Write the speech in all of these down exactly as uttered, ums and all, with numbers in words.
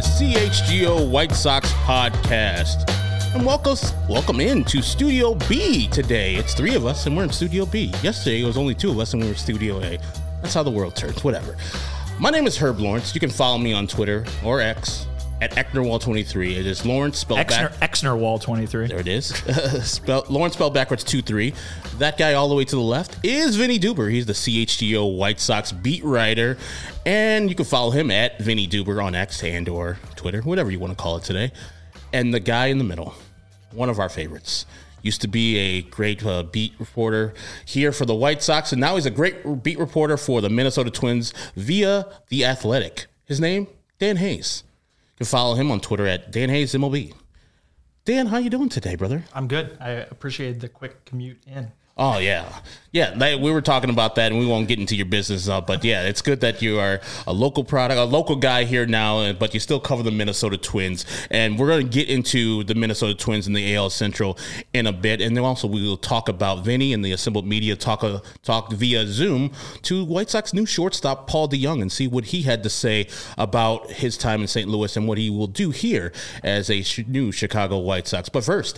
C H G O White Sox podcast. And welcome, welcome in to Studio B today. It's three of us, and we're in Studio B. Yesterday, it was only two of us, and we were in Studio A. That's how the world turns, whatever. My name is Herb Lawrence. You can follow me on Twitter or X at Ecknerwall twenty-three. It is Lawrence spelled Exner, back. Exnerwall twenty-three. There it is. Spell, Lawrence spelled backwards two three. That guy all the way to the left is Vinny Duber. He's the C H G O White Sox beat writer. And you can follow him at Vinny Duber on X and or Twitter, whatever you want to call it today. And the guy in the middle, one of our favorites. Used to be a great uh, beat reporter here for the White Sox, and now he's a great beat reporter for the Minnesota Twins via The Athletic. His name, Dan Hayes. You can follow him on Twitter at Dan Hayes M L B. Dan, how you doing today, brother? I'm good. I appreciate the quick commute in. Oh, yeah. Yeah, they, we were talking about that, and we won't get into your business, uh, but yeah, it's good that you are a local product, a local guy here now, but you still cover the Minnesota Twins, and we're going to get into the Minnesota Twins in the A L Central in a bit, and then also we will talk about Vinny and the assembled media talk, uh, talk via Zoom to White Sox new shortstop Paul DeJong and see what he had to say about his time in Saint Louis and what he will do here as a sh- new Chicago White Sox. But first,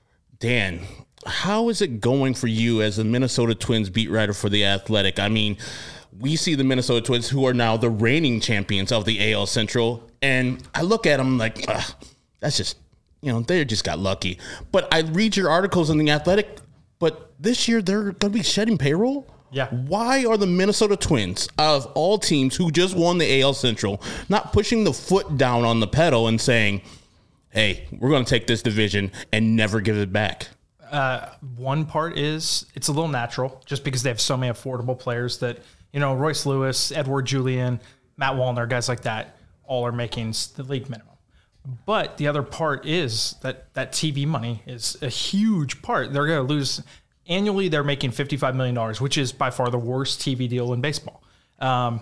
Dan, how is it going for you as a Minnesota Twins beat writer for The Athletic? I mean, we see the Minnesota Twins, who are now the reigning champions of the A L Central, and I look at them like, ugh, that's just, you know, they just got lucky. But I read your articles in The Athletic, but this year they're going to be shedding payroll? Yeah. Why are the Minnesota Twins, of all teams who just won the A L Central, not pushing the foot down on the pedal and saying, hey, we're going to take this division and never give it back? Uh, one part is it's a little natural just because they have so many affordable players that, you know, Royce Lewis, Edward Julian, Matt Wallner, guys like that, all are making the league minimum. But the other part is that that T V money is a huge part. They're going to lose annually. They're making fifty-five million dollars, which is by far the worst T V deal in baseball. Um,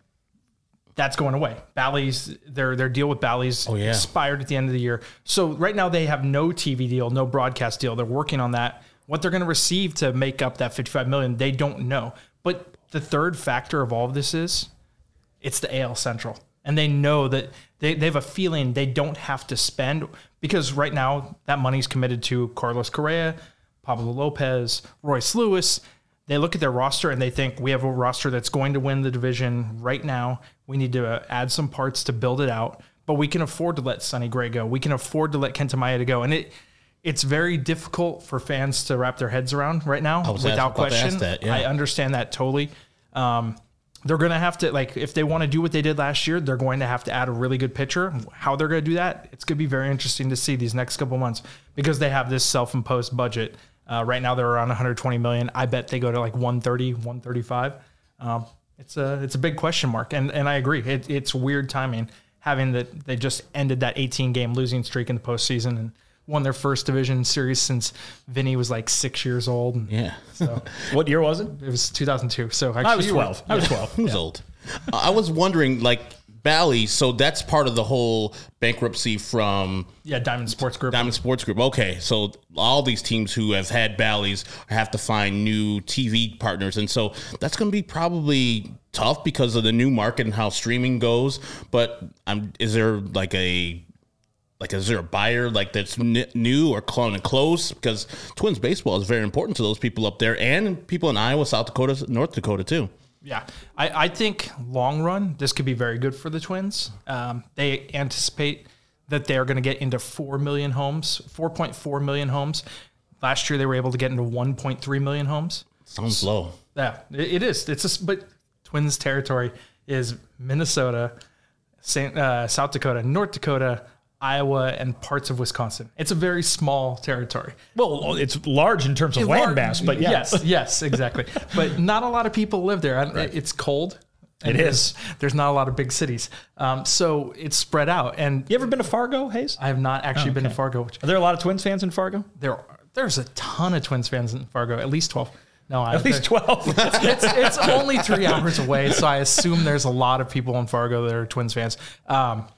That's going away. Bally's, their their deal with Bally's oh, yeah. expired at the end of the year. So right now they have no T V deal, no broadcast deal. They're working on that. What they're going to receive to make up that fifty-five million dollars, they don't know. But the third factor of all of this is it's the A L Central. And they know that they, they have a feeling they don't have to spend because right now that money's committed to Carlos Correa, Pablo Lopez, Royce Lewis. They look at their roster and they think we have a roster that's going to win the division right now. We need to uh, add some parts to build it out, but we can afford to let Sonny Gray go. We can afford to let Kenta Maeda go. And it it's very difficult for fans to wrap their heads around right now without question. That, yeah. I understand that totally. Um, they're going to have to, like, if they want to do what they did last year, they're going to have to add a really good pitcher. How they're going to do that, it's going to be very interesting to see these next couple months because they have this self-imposed budget. Uh, right now they're around one hundred twenty million. I bet they go to like one thirty, one thirty-five. Um, it's a it's a big question mark, and and I agree. It, it's weird timing having that they just ended that eighteen game losing streak in the postseason and won their first division series since Vinny was like six years old. And yeah. So what year was it? It was two thousand two. So actually I was twelve. I was twelve. He was yeah. old. Uh, I was wondering, like, Bally, so that's part of the whole bankruptcy from yeah Diamond Sports Group. Diamond Sports Group. Okay, so all these teams who have had Bally's have to find new T V partners, and so that's going to be probably tough because of the new market and how streaming goes. But um, is there like a like is there a buyer like that's n- new or clone and close? Because Twins baseball is very important to those people up there and people in Iowa, South Dakota, North Dakota too. Yeah, I, I think long run, this could be very good for the Twins. Um, they anticipate that they're going to get into four million homes, four point four million homes. Last year, they were able to get into one point three million homes. Sounds low. Yeah, it, it is. It's a, but Twins territory is Minnesota, Saint, uh, South Dakota, North Dakota, Iowa, and parts of Wisconsin. It's a very small territory. Well, it's large in terms of It's land large, mass, but yeah. yes, yes, exactly. But not a lot of people live there. Right. It's cold. It there's, is. There's not a lot of big cities, um, so it's spread out. And You ever been to Fargo, Hayes? I have not actually Oh, been to okay. Fargo. Which Are there a lot of Twins fans in Fargo? there, are, there's a ton of Twins fans in Fargo. At least twelve. No, I, At least twelve. it's it's only three hours away, so I assume there's a lot of people in Fargo that are Twins fans. Um,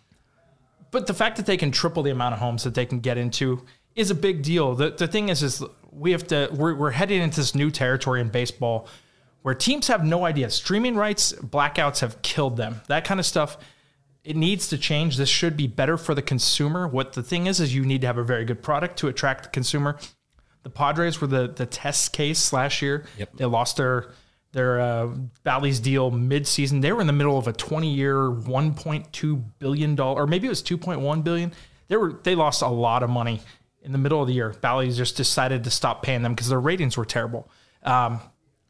but the fact that they can triple the amount of homes that they can get into is a big deal. The the thing is, is we have to we're we're heading into this new territory in baseball where teams have no idea. Streaming rights blackouts have killed them. That kind of stuff. It needs to change. This should be better for the consumer. What the thing is, is you need to have a very good product to attract the consumer. The Padres were the, the test case last year. Yep. They lost their their uh, Bally's deal mid-season. They were in the middle of a twenty-year, one point two billion dollars, or maybe it was two point one billion dollars. They were they lost a lot of money in the middle of the year. Bally's just decided to stop paying them because their ratings were terrible. Um,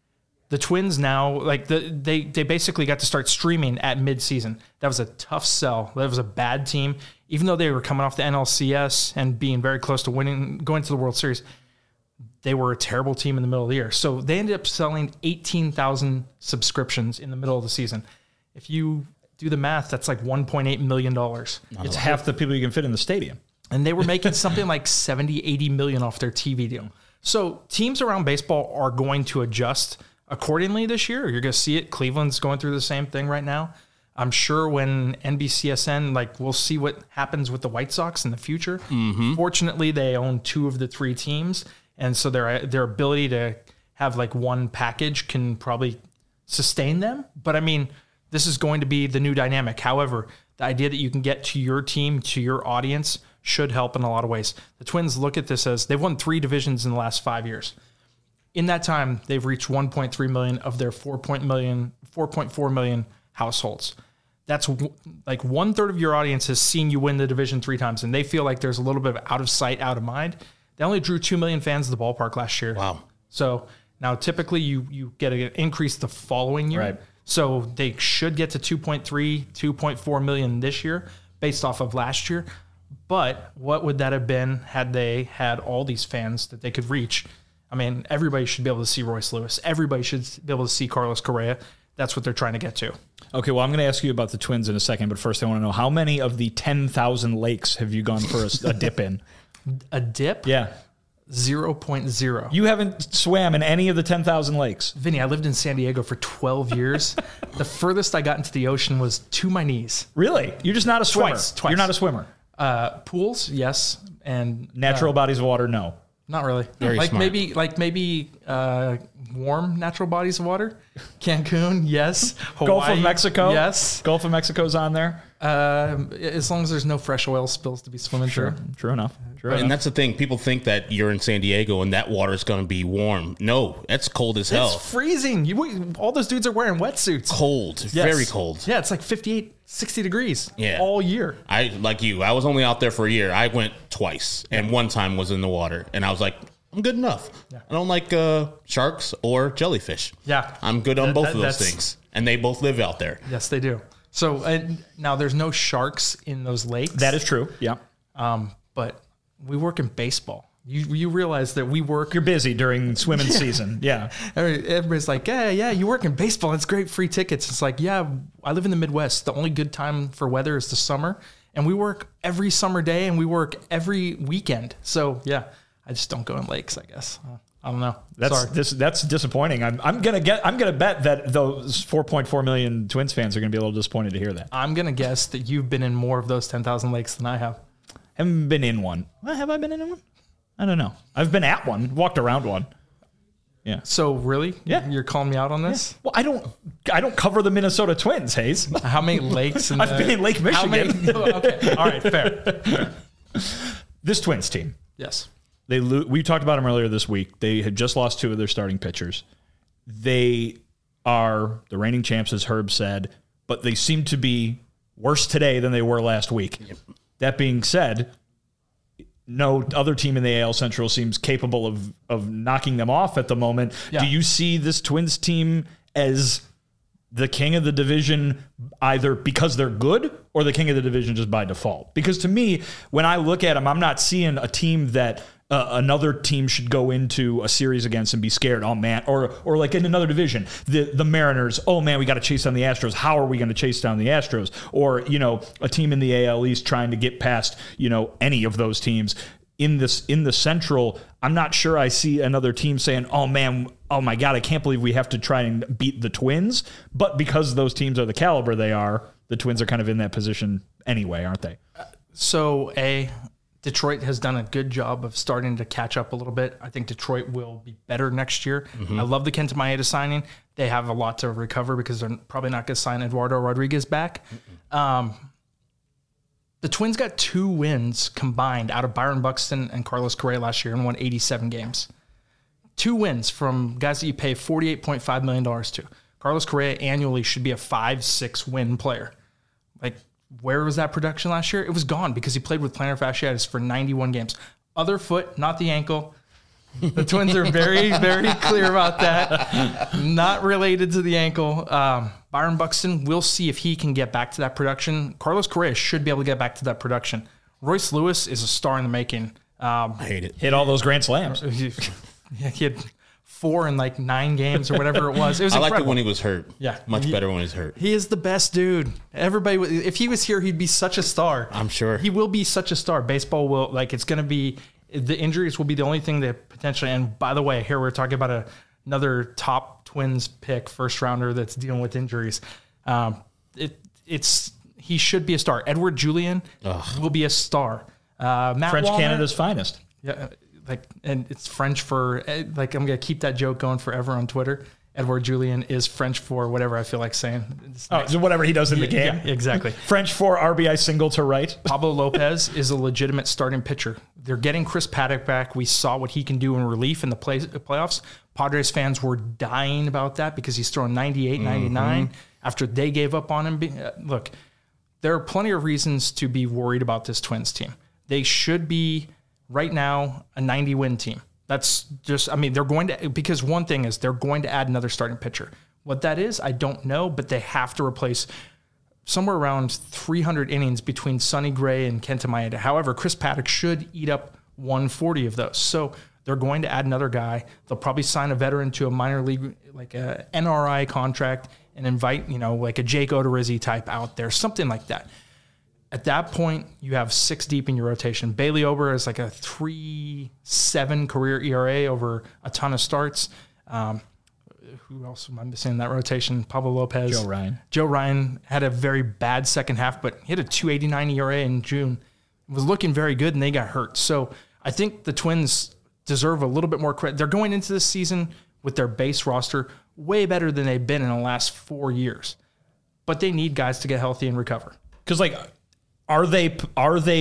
the Twins now, like the, they they basically got to start streaming at mid-season. That was a tough sell. That was a bad team. Even though they were coming off the N L C S and being very close to winning, going to the World Series, they were a terrible team in the middle of the year. So they ended up selling eighteen thousand subscriptions in the middle of the season. If you do the math, that's like one point eight million dollars. It's half the people you can fit in the stadium. And they were making something like seventy, eighty million off their T V deal. So teams around baseball are going to adjust accordingly this year. You're going to see it. Cleveland's going through the same thing right now. I'm sure when N B C S N, like, we'll see what happens with the White Sox in the future. Mm-hmm. Fortunately, they own two of the three teams. And so their their ability to have like one package can probably sustain them. But I mean, this is going to be the new dynamic. However, the idea that you can get to your team, to your audience, should help in a lot of ways. The Twins look at this as they've won three divisions in the last five years. In that time, they've reached one point three million of their four point four million households. That's w- like one third of your audience has seen you win the division three times, and they feel like there's a little bit of out of sight, out of mind. They only drew two million fans at the ballpark last year. Wow. So now typically you you get an increase the following year. Right. So they should get to two point three, two point four million this year based off of last year. But what would that have been had they had all these fans that they could reach? I mean, everybody should be able to see Royce Lewis. Everybody should be able to see Carlos Correa. That's what they're trying to get to. Okay, well, I'm going to ask you about the Twins in a second, but first I want to know, how many of the ten thousand lakes have you gone for a, a dip in? A dip? Yeah. zero point zero. You haven't swam in any of the ten thousand lakes. Vinny, I lived in San Diego for twelve years. The furthest I got into the ocean was to my knees. Really? You're just not a swimmer. Twice, twice. You're not a swimmer. Uh, pools, yes. And Natural uh, bodies of water, no. Not really. Very like smart. maybe like maybe uh, warm natural bodies of water. Cancun, yes. Hawaii, Gulf of Mexico? yes. Gulf of Mexico's on there? Um, as long as there's no fresh oil spills to be swimming Sure. through. True enough. True And enough. that's the thing. People think that you're in San Diego and that water is going to be warm. No, that's cold as hell. It's freezing. You all those dudes are wearing wetsuits. Cold. Yes. Very cold. Yeah, it's like fifty-eight, sixty degrees Yeah. all year. I like you. I was only out there for a year. I went twice, and one time was in the water, and I was like, I'm good enough. I don't like uh, sharks or jellyfish. Yeah. I'm good on That- both that- of those that's- things, and they both live out there. Yes, they do. So uh, now there's no sharks in those lakes. That is true. Yeah. Um, but we work in baseball. You you realize that we work. You're busy during swimming season. Yeah. Every- Everybody's like, yeah, yeah, you work in baseball. It's great, free tickets. It's like, yeah, I live in the Midwest. The only good time for weather is the summer, and we work every summer day, and we work every weekend. So yeah, I just don't go in lakes, I guess. Uh, I don't know. That's Sorry. this, that's disappointing. I'm I'm gonna get I'm gonna bet that those four point four million Twins fans are gonna be a little disappointed to hear that. I'm gonna guess that you've been in more of those ten thousand lakes than I have. Haven't been in one. Well, have I been in one? I don't know. I've been at one, walked around one. Yeah. So really, Yeah. you're calling me out on this? Well, I don't I don't cover the Minnesota Twins, Hayes. How many lakes? In I've the, been in Lake how Michigan. many- okay, all right, fair. fair. This Twins team. Yes. They lo- we talked about them earlier this week. They had just lost two of their starting pitchers. They are the reigning champs, as Herb said, but they seem to be worse today than they were last week. Yep. That being said, no other team in the A L Central seems capable of of knocking them off at the moment. Yeah. Do you see this Twins team as the king of the division either because they're good or the king of the division just by default? Because to me, when I look at them, I'm not seeing a team that uh, another team should go into a series against and be scared. Oh man, or or like in another division, the the Mariners. Oh man, we got to chase down the Astros. How are we going to chase down the Astros? Or you know, a team in the A L East trying to get past you know any of those teams. In this in the Central, I'm not sure I see another team saying, "Oh man, oh my God, I can't believe we have to try and beat the Twins." But because those teams are the caliber they are, the Twins are kind of in that position anyway, aren't they? So, A, Detroit has done a good job of starting to catch up a little bit. I think Detroit will be better next year. Mm-hmm. I love the Kenta Maeda signing. They have a lot to recover because they're probably not going to sign Eduardo Rodriguez back. Um, The Twins got two wins combined out of Byron Buxton and Carlos Correa last year and won eighty-seven games. Two wins from guys that you pay forty-eight point five million dollars to. Carlos Correa annually should be a five, six win player. Like, where was that production last year? It was gone because he played with plantar fasciitis for ninety-one games. Other foot, not the ankle. The Twins are very, very clear about that. Not related to the ankle. Um, Byron Buxton, we'll see if he can get back to that production. Carlos Correa should be able to get back to that production. Royce Lewis is a star in the making. Um, I hate it. Hit all those grand slams. he, he had four in like nine games or whatever it was. It was I liked it incredible. when he was hurt. Yeah. Much He- better when he's hurt. He is the best dude. Everybody, would- if he was here, he'd be such a star. I'm sure. He will be such a star. Baseball will, like, it's going to be, the injuries will be the only thing that potentially, and by the way, here we're talking about a, another top Twins pick, first rounder that's dealing with injuries. Um, it, it's, he should be a star. Edward Julian Ugh. will be a star. Uh, Matt French Wallner- Canada's finest. Yeah, like, and it's French for, like, I'm going to keep that joke going forever on Twitter. Edward Julian is French for whatever I feel like saying. It's Oh, so whatever he does in the game. Yeah, exactly. French for R B I single to right. Pablo Lopez is a legitimate starting pitcher. They're getting Chris Paddock back. We saw what he can do in relief in the play, playoffs. Padres fans were dying about that because he's throwing ninety-eight, ninety-nine after they gave up on him. Be- uh, Look, there are plenty of reasons to be worried about this Twins team. They should be, right now, a ninety-win team. That's just, I mean, they're going to, because one thing is they're going to add another starting pitcher. What that is, I don't know, but they have to replace somewhere around three hundred innings between Sonny Gray and Kenta Maeda. However, Chris Paddock should eat up one forty of those. So they're going to add another guy. They'll probably sign a veteran to a minor league, like a N R I contract, and invite, you know, like a Jake Odorizzi type out there, something like that. At that point, you have six deep in your rotation. Bailey Ober is like a three seven career E R A over a ton of starts. Um, who else am I missing in that rotation? Pablo Lopez. Joe Ryan. Joe Ryan had a very bad second half, but he had a two eighty-nine E R A in June. It was looking very good, and they got hurt. So I think the Twins deserve a little bit more credit. They're going into this season with their base roster way better than they've been in the last four years. But they need guys to get healthy and recover. Because, like, are they are they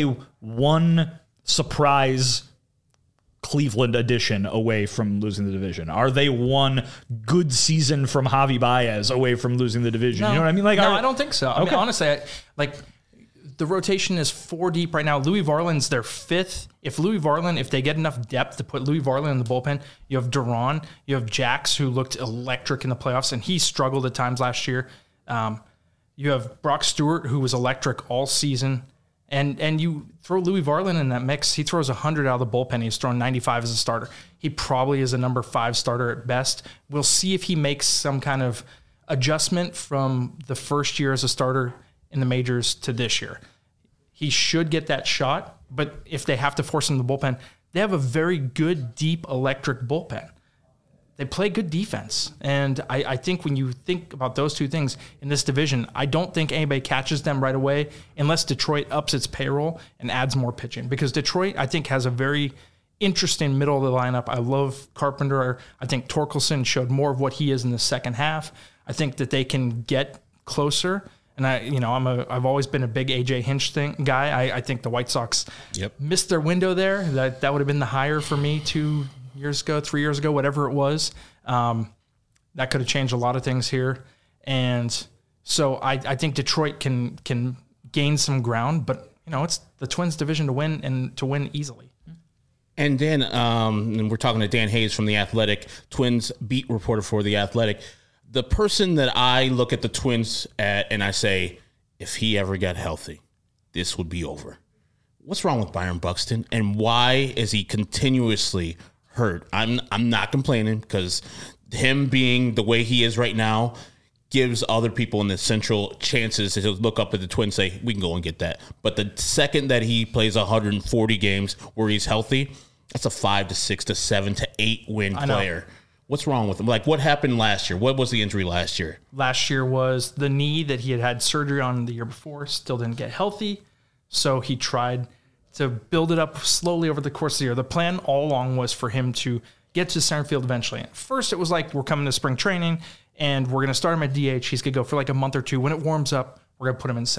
one surprise Cleveland addition away from losing the division? Are they one good season from Javi Baez away from losing the division? No, you know what I mean? Like, no, are, I don't think so. I Okay. mean, honestly, I, like the rotation is four deep right now. Louis Varland's their fifth. If Louis Varland, if they get enough depth to put Louis Varland in the bullpen, you have Duran, you have Jax, who looked electric in the playoffs, and he struggled at times last year. Um, you have Brock Stewart, who was electric all season. And and you throw Louis Varland in that mix, he throws one hundred out of the bullpen. He's thrown ninety-five as a starter. He probably is a number five starter at best. We'll see if he makes some kind of adjustment from the first year as a starter in the majors to this year. He should get that shot, but if they have to force him to the bullpen, they have a very good, deep, electric bullpen. They play good defense. And I, I think when you think about those two things in this division, I don't think anybody catches them right away unless Detroit ups its payroll and adds more pitching. Because Detroit, I think, has a very interesting middle of the lineup. I love Carpenter. I think Torkelson showed more of what he is in the second half. I think that they can get closer. And I, you know, I'm a, I've always been a big A J Hinch thing guy. I, I think the White Sox Yep. missed their window there. That that would have been the hire for me two years ago, three years ago, whatever it was. Um, that could have changed a lot of things here. And so I, I think Detroit can can gain some ground, but you know, it's the Twins division to win and to win easily. And then, um, and we're talking to Dan Hayes from The Athletic, Twins beat reporter for The Athletic. The person that I look at the Twins at and I say, if he ever got healthy, this would be over. What's wrong with Byron Buxton, and why is he continuously hurt? I'm I'm not complaining, because him being the way he is right now gives other people in the Central chances to look up at the Twins and say, we can go and get that. But the second that he plays one hundred forty games where he's healthy, that's a five to six to seven to eight win I know. player. What's wrong with him? Like, what happened last year? What was the injury last year? Last year was the knee that he had had surgery on the year before, still didn't get healthy. So he tried to build it up slowly over the course of the year. The plan all along was for him to get to center field eventually. At first, it was like, we're coming to spring training, and we're going to start him at D H. He's going to go for like a month or two. When it warms up, we're going to put him in center.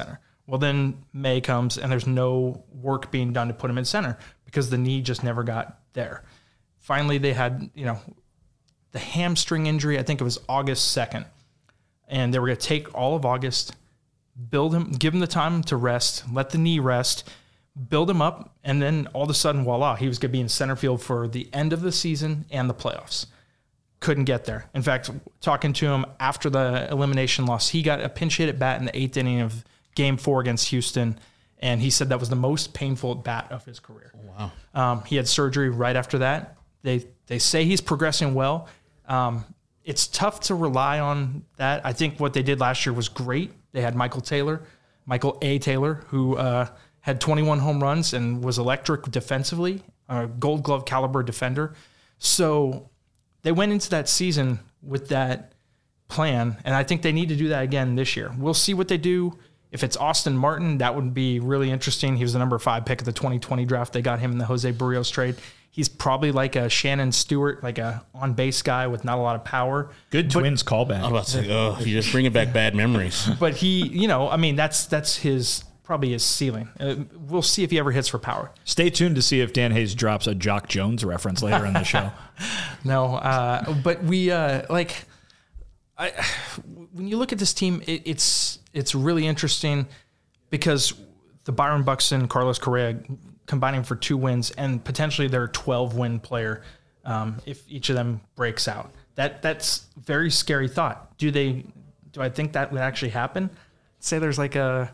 Well, then May comes and there's no work being done to put him in center because the knee just never got there. Finally, they had, you know, the hamstring injury. I think it was August second. And they were going to take all of August, build him, give him the time to rest, let the knee rest, build him up, and then all of a sudden, voila, he was going to be in center field for the end of the season and the playoffs. Couldn't get there. In fact, talking to him after the elimination loss, he got a pinch hit at bat in the eighth inning of game four against Houston, and he said that was the most painful at bat of his career. Wow. Um, he had surgery right after that. They they say he's progressing well. Um, it's tough to rely on that. I think what they did last year was great. They had Michael Taylor, Michael A. Taylor, who uh, had twenty-one home runs and was electric defensively, a Gold Glove caliber defender. So they went into that season with that plan, and I think they need to do that again this year. We'll see what they do. If it's Austin Martin, that would be really interesting. He was the number five pick of the twenty twenty draft. They got him in the Jose Barrios trade. He's probably like a Shannon Stewart, like a on-base guy with not a lot of power. Good but, Twins callback. I'm about to say, oh, you're just bringing back bad memories. But he, you know, I mean, that's that's his probably his ceiling. Uh, we'll see if he ever hits for power. Stay tuned to see if Dan Hayes drops a Jock Jones reference later in the show. No, uh, but we uh, like I, when you look at this team, it, it's it's really interesting because the Byron Buxton, Carlos Correa combining for two wins and potentially their twelve win player um, if each of them breaks out. That that's a very scary thought. Do they? Do I think that would actually happen? Say there's like a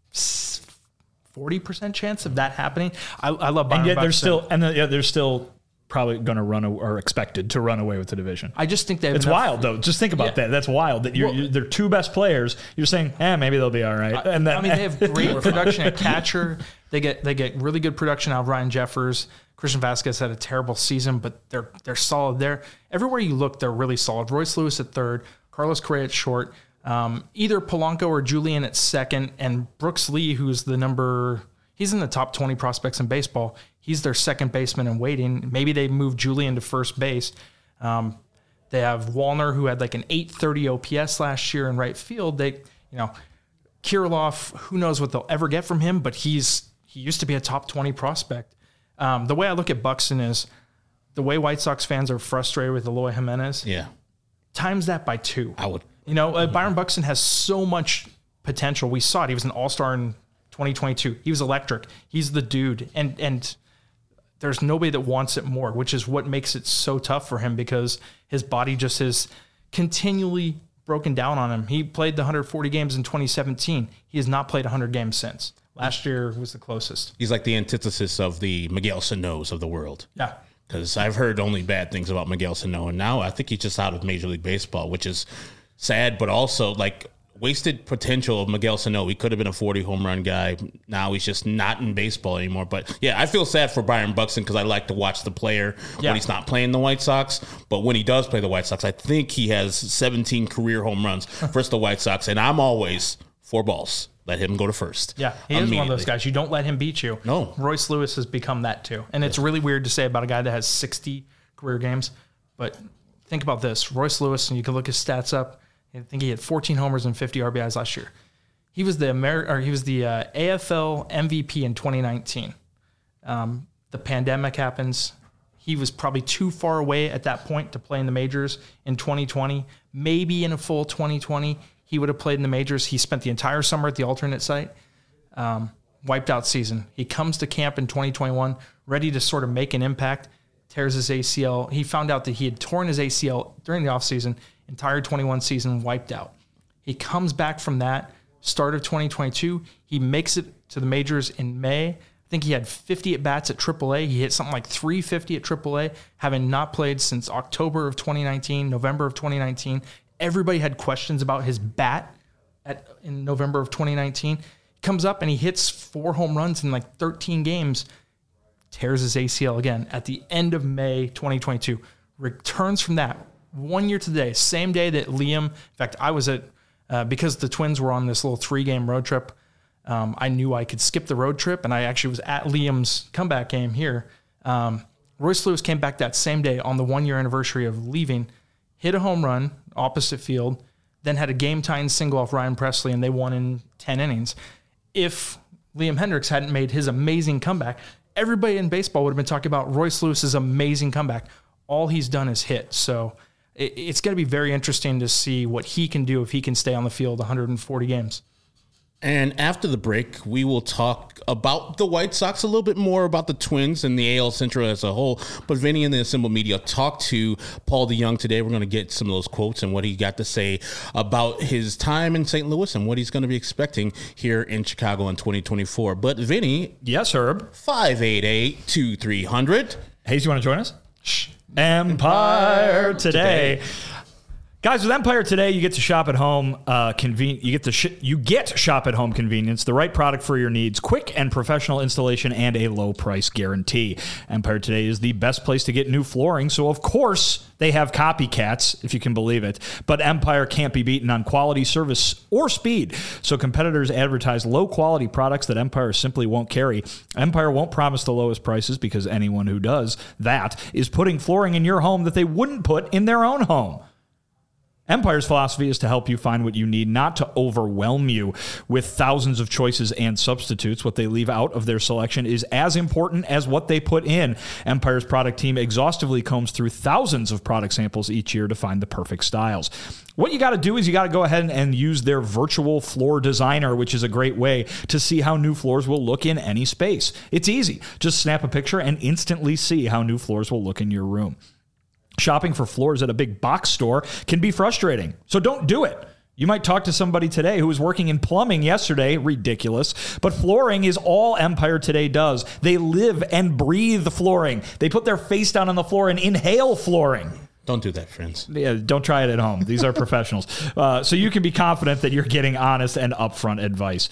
forty percent chance of that happening. I, I love Byron And yet Buxton. they're still and the, yeah, they're still probably going to run a, or expected to run away with the division. I just think they have It's enough, wild though. Just think about Yeah. that. That's wild that you're, Well- you're their two best players. You're saying, eh, maybe they'll be all right. And then I mean, they have great production at catcher. They get they get really good production out of Ryan Jeffers. Christian Vasquez had a terrible season, but they're they're solid there. Everywhere you look, they're really solid. Royce Lewis at third, Carlos Correa at short, um, either Polanco or Julian at second, and Brooks Lee, who's the number, he's in the top twenty prospects in baseball. He's their second baseman in waiting. Maybe they move Julian to first base. Um, they have Wallner, who had like an eight thirty O P S last year in right field. They, you know, Kirilloff, who knows what they'll ever get from him, but he's he used to be a top twenty prospect. Um, the way I look at Buxton is the way White Sox fans are frustrated with Eloy Jimenez. Yeah, Times that by two. I would. You know, uh, Byron Buxton has so much potential. We saw it. He was an all-star in twenty twenty-two. He was electric. He's the dude. And and there's nobody that wants it more, which is what makes it so tough for him because his body just has continually broken down on him. He played the one hundred forty games in twenty seventeen. He has not played one hundred games since. Last year was the closest. He's like the antithesis of the Miguel Sano's of the world. Yeah. Because I've heard only bad things about Miguel Sano, and now I think he's just out of Major League Baseball, which is sad, but also like wasted potential of Miguel Sano. He could have been a forty home run guy. Now he's just not in baseball anymore. But yeah, I feel sad for Byron Buxton because I like to watch the player Yeah. when he's not playing the White Sox. But when he does play the White Sox, I think he has seventeen career home runs versus the White Sox, and I'm always four balls. Let him go to first. Yeah, he is one of those Immediately. guys. You don't let him beat you. No. Royce Lewis has become that too. And it's really weird to say about a guy that has sixty career games. But think about this. Royce Lewis, and you can look his stats up. I think he had fourteen homers and fifty R B Is last year. He was the Amer- or he was the uh, A F L M V P in twenty nineteen. Um, the pandemic happens. He was probably too far away at that point to play in the majors in twenty twenty. Maybe in a full twenty twenty, he would have played in the majors. He spent the entire summer at the alternate site. Um, wiped out season. He comes to camp in twenty twenty-one, ready to sort of make an impact, tears his A C L. He found out that he had torn his A C L during the offseason, entire twenty-one season wiped out. He comes back from that, start of twenty twenty-two. He makes it to the majors in May. I think he had fifty at-bats at triple A. He hit something like three fifty at triple A, having not played since October of twenty nineteen, November of twenty nineteen. Everybody had questions about his bat at in November of twenty nineteen. He comes up and he hits four home runs in like thirteen games, tears his A C L again at the end of May twenty twenty-two. Returns from that one year today, same day that Liam, in fact, I was at, uh, because the Twins were on this little three-game road trip, um, I knew I could skip the road trip, and I actually was at Liam's comeback game here. Um, Royce Lewis came back that same day on the one-year anniversary of leaving, hit a home run, opposite field, then had a game-tying single off Ryan Presley, and they won in ten innings. if Liam Hendriks hadn't made his amazing comeback, everybody in baseball would have been talking about Royce Lewis's amazing comeback. All he's done is hit. So it, it's going to be very interesting to see what he can do if he can stay on the field one hundred forty games. And after the break, we will talk about the White Sox, a little bit more about the Twins and the A L Central as a whole. But Vinny and the Assembled Media talked to Paul DeJong today. We're going to get some of those quotes and what he got to say about his time in Saint Louis and what he's going to be expecting here in Chicago in twenty twenty-four. But Vinny. Yes, Herb. five eight eight, two three zero zero. Hayes, you want to join us? Shh. Empire Today. Today. Guys, with Empire Today, you get to shop at home. Uh, conven- you get to sh- you get shop at home convenience, the right product for your needs, quick and professional installation, and a low price guarantee. Empire Today is the best place to get new flooring, so of course they have copycats, if you can believe it. But Empire can't be beaten on quality, service, or speed. So competitors advertise low quality products that Empire simply won't carry. Empire won't promise the lowest prices because anyone who does that is putting flooring in your home that they wouldn't put in their own home. Empire's philosophy is to help you find what you need, not to overwhelm you with thousands of choices and substitutes. What they leave out of their selection is as important as what they put in. Empire's product team exhaustively combs through thousands of product samples each year to find the perfect styles. What you got to do is you got to go ahead and use their virtual floor designer, which is a great way to see how new floors will look in any space. It's easy. Just snap a picture and instantly see how new floors will look in your room. Shopping for floors at a big box store can be frustrating, so don't do it. You might talk to somebody today who was working in plumbing yesterday. Ridiculous. But flooring is all Empire Today does. They live and breathe flooring. They put their face down on the floor and inhale flooring. Don't do that, friends. Yeah, don't try it at home. These are professionals. Uh, so you can be confident that you're getting honest and upfront advice.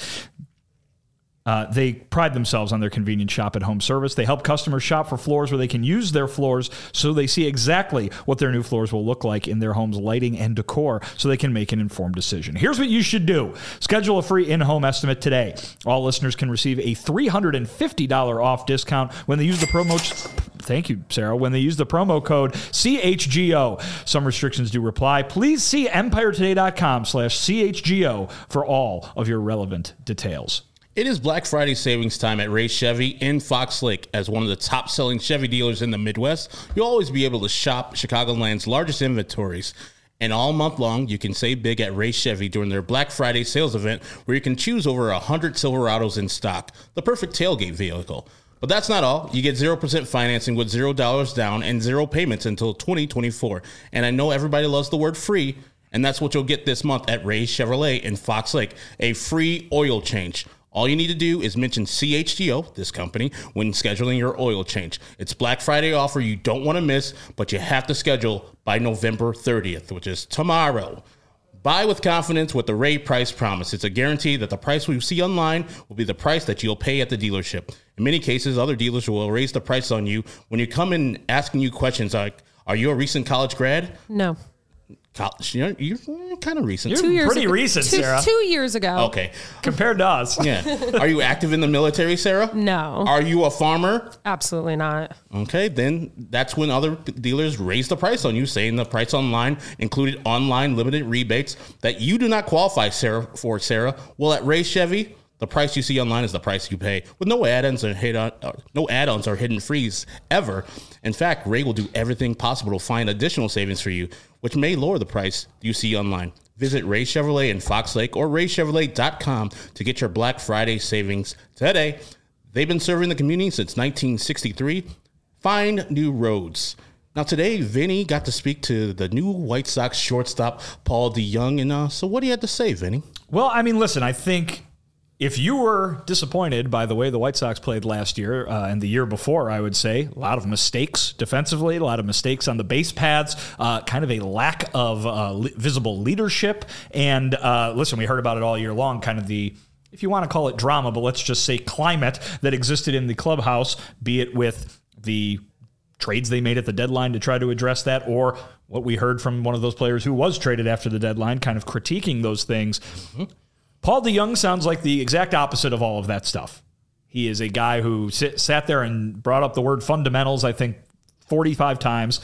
Uh, they pride themselves on their convenient shop-at-home service. They help customers shop for floors where they can use their floors so they see exactly what their new floors will look like in their home's lighting and decor so they can make an informed decision. Here's what you should do. Schedule a free in-home estimate today. All listeners can receive a three hundred fifty dollars off discount when they use the promo... Thank you, Sarah. When they use the promo code C H G O. Some restrictions do apply. Please see empiretoday.com slash CHGO for all of your relevant details. It is Black Friday savings time at Ray Chevy in Fox Lake. As one of the top-selling Chevy dealers in the Midwest, you'll always be able to shop Chicagoland's largest inventories. And all month long, you can save big at Ray Chevy during their Black Friday sales event, where you can choose over one hundred Silverados in stock, the perfect tailgate vehicle. But that's not all. You get zero percent financing with zero dollars down and zero payments until twenty twenty-four. And I know everybody loves the word free, and that's what you'll get this month at Ray Chevrolet in Fox Lake, a free oil change. All you need to do is mention C H G O, this company, when scheduling your oil change. It's Black Friday offer you don't want to miss, but you have to schedule by November thirtieth, which is tomorrow. Buy with confidence with the Ray Price Promise. It's a guarantee that the price we see online will be the price that you'll pay at the dealership. In many cases, other dealers will raise the price on you when you come in asking you questions like, are you a recent college grad? No. College, you're, you're kind of recent. You're two years pretty ago, recent, two, Sarah. Two years ago. Okay. Compared to us. Yeah. Are you active in the military, Sarah? No. Are you a farmer? Absolutely not. Okay, then that's when other dealers raise the price on you, saying the price online included online limited rebates that you do not qualify Sarah for, Sarah. Well, at Ray Chevy, the price you see online is the price you pay, with no add-ons or hid on, uh, no add-ons or hidden fees ever. In fact, Ray will do everything possible to find additional savings for you, which may lower the price you see online. Visit Ray Chevrolet in Fox Lake or ray chevrolet dot com to get your Black Friday savings today. They've been serving the community since nineteen sixty-three. Find new roads. Now today, Vinny got to speak to the new White Sox shortstop, Paul DeJong. And uh, so what do you have to say, Vinny? Well, I mean, listen, I think if you were disappointed by the way the White Sox played last year uh, and the year before, I would say a lot of mistakes defensively, a lot of mistakes on the base paths, uh, kind of a lack of uh, li- visible leadership. And uh, listen, we heard about it all year long, kind of the, if you want to call it drama, but let's just say climate that existed in the clubhouse, be it with the trades they made at the deadline to try to address that, or what we heard from one of those players who was traded after the deadline, kind of critiquing those things. Mm-hmm. Paul DeJong sounds like the exact opposite of all of that stuff. He is a guy who sit, sat there and brought up the word fundamentals, I think, forty-five times.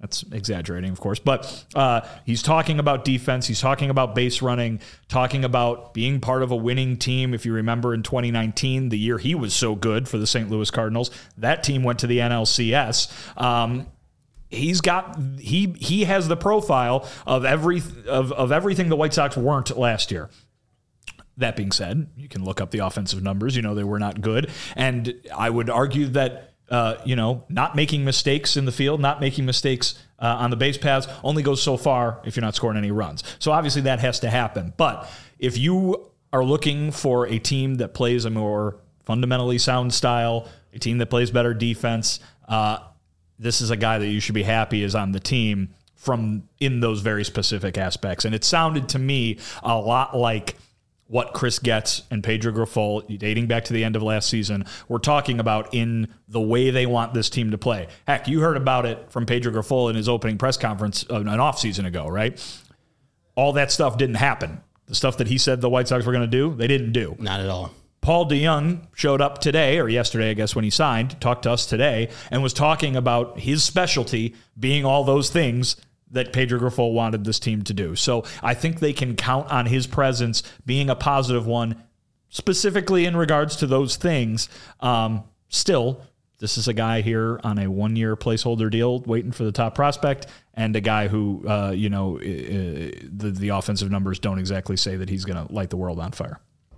That's exaggerating, of course. But uh, he's talking about defense. He's talking about base running, talking about being part of a winning team. If you remember in twenty nineteen, the year he was so good for the Saint Louis Cardinals, that team went to the N L C S. Um, he's got he he has the profile of every of, of everything the White Sox weren't last year. That being said, you can look up the offensive numbers. You know, they were not good. And I would argue that, uh, you know, not making mistakes in the field, not making mistakes uh, on the base paths only goes so far if you're not scoring any runs. So obviously that has to happen. But if you are looking for a team that plays a more fundamentally sound style, a team that plays better defense, uh, this is a guy that you should be happy is on the team from in those very specific aspects. And it sounded to me a lot like what Chris Getz and Pedro Grifol, dating back to the end of last season, were talking about in the way they want this team to play. Heck, you heard about it from Pedro Grifol in his opening press conference an offseason ago, right? All that stuff didn't happen. The stuff that he said the White Sox were going to do, they didn't do. Not at all. Paul DeJong showed up today, or yesterday, I guess, when he signed, talked to us today, and was talking about his specialty being all those things that Pedro Grifol wanted this team to do. So I think they can count on his presence being a positive one, specifically in regards to those things. Um, still, this is a guy here on a one-year placeholder deal waiting for the top prospect, and a guy who, uh, you know, uh, the, the offensive numbers don't exactly say that he's going to light the world on fire.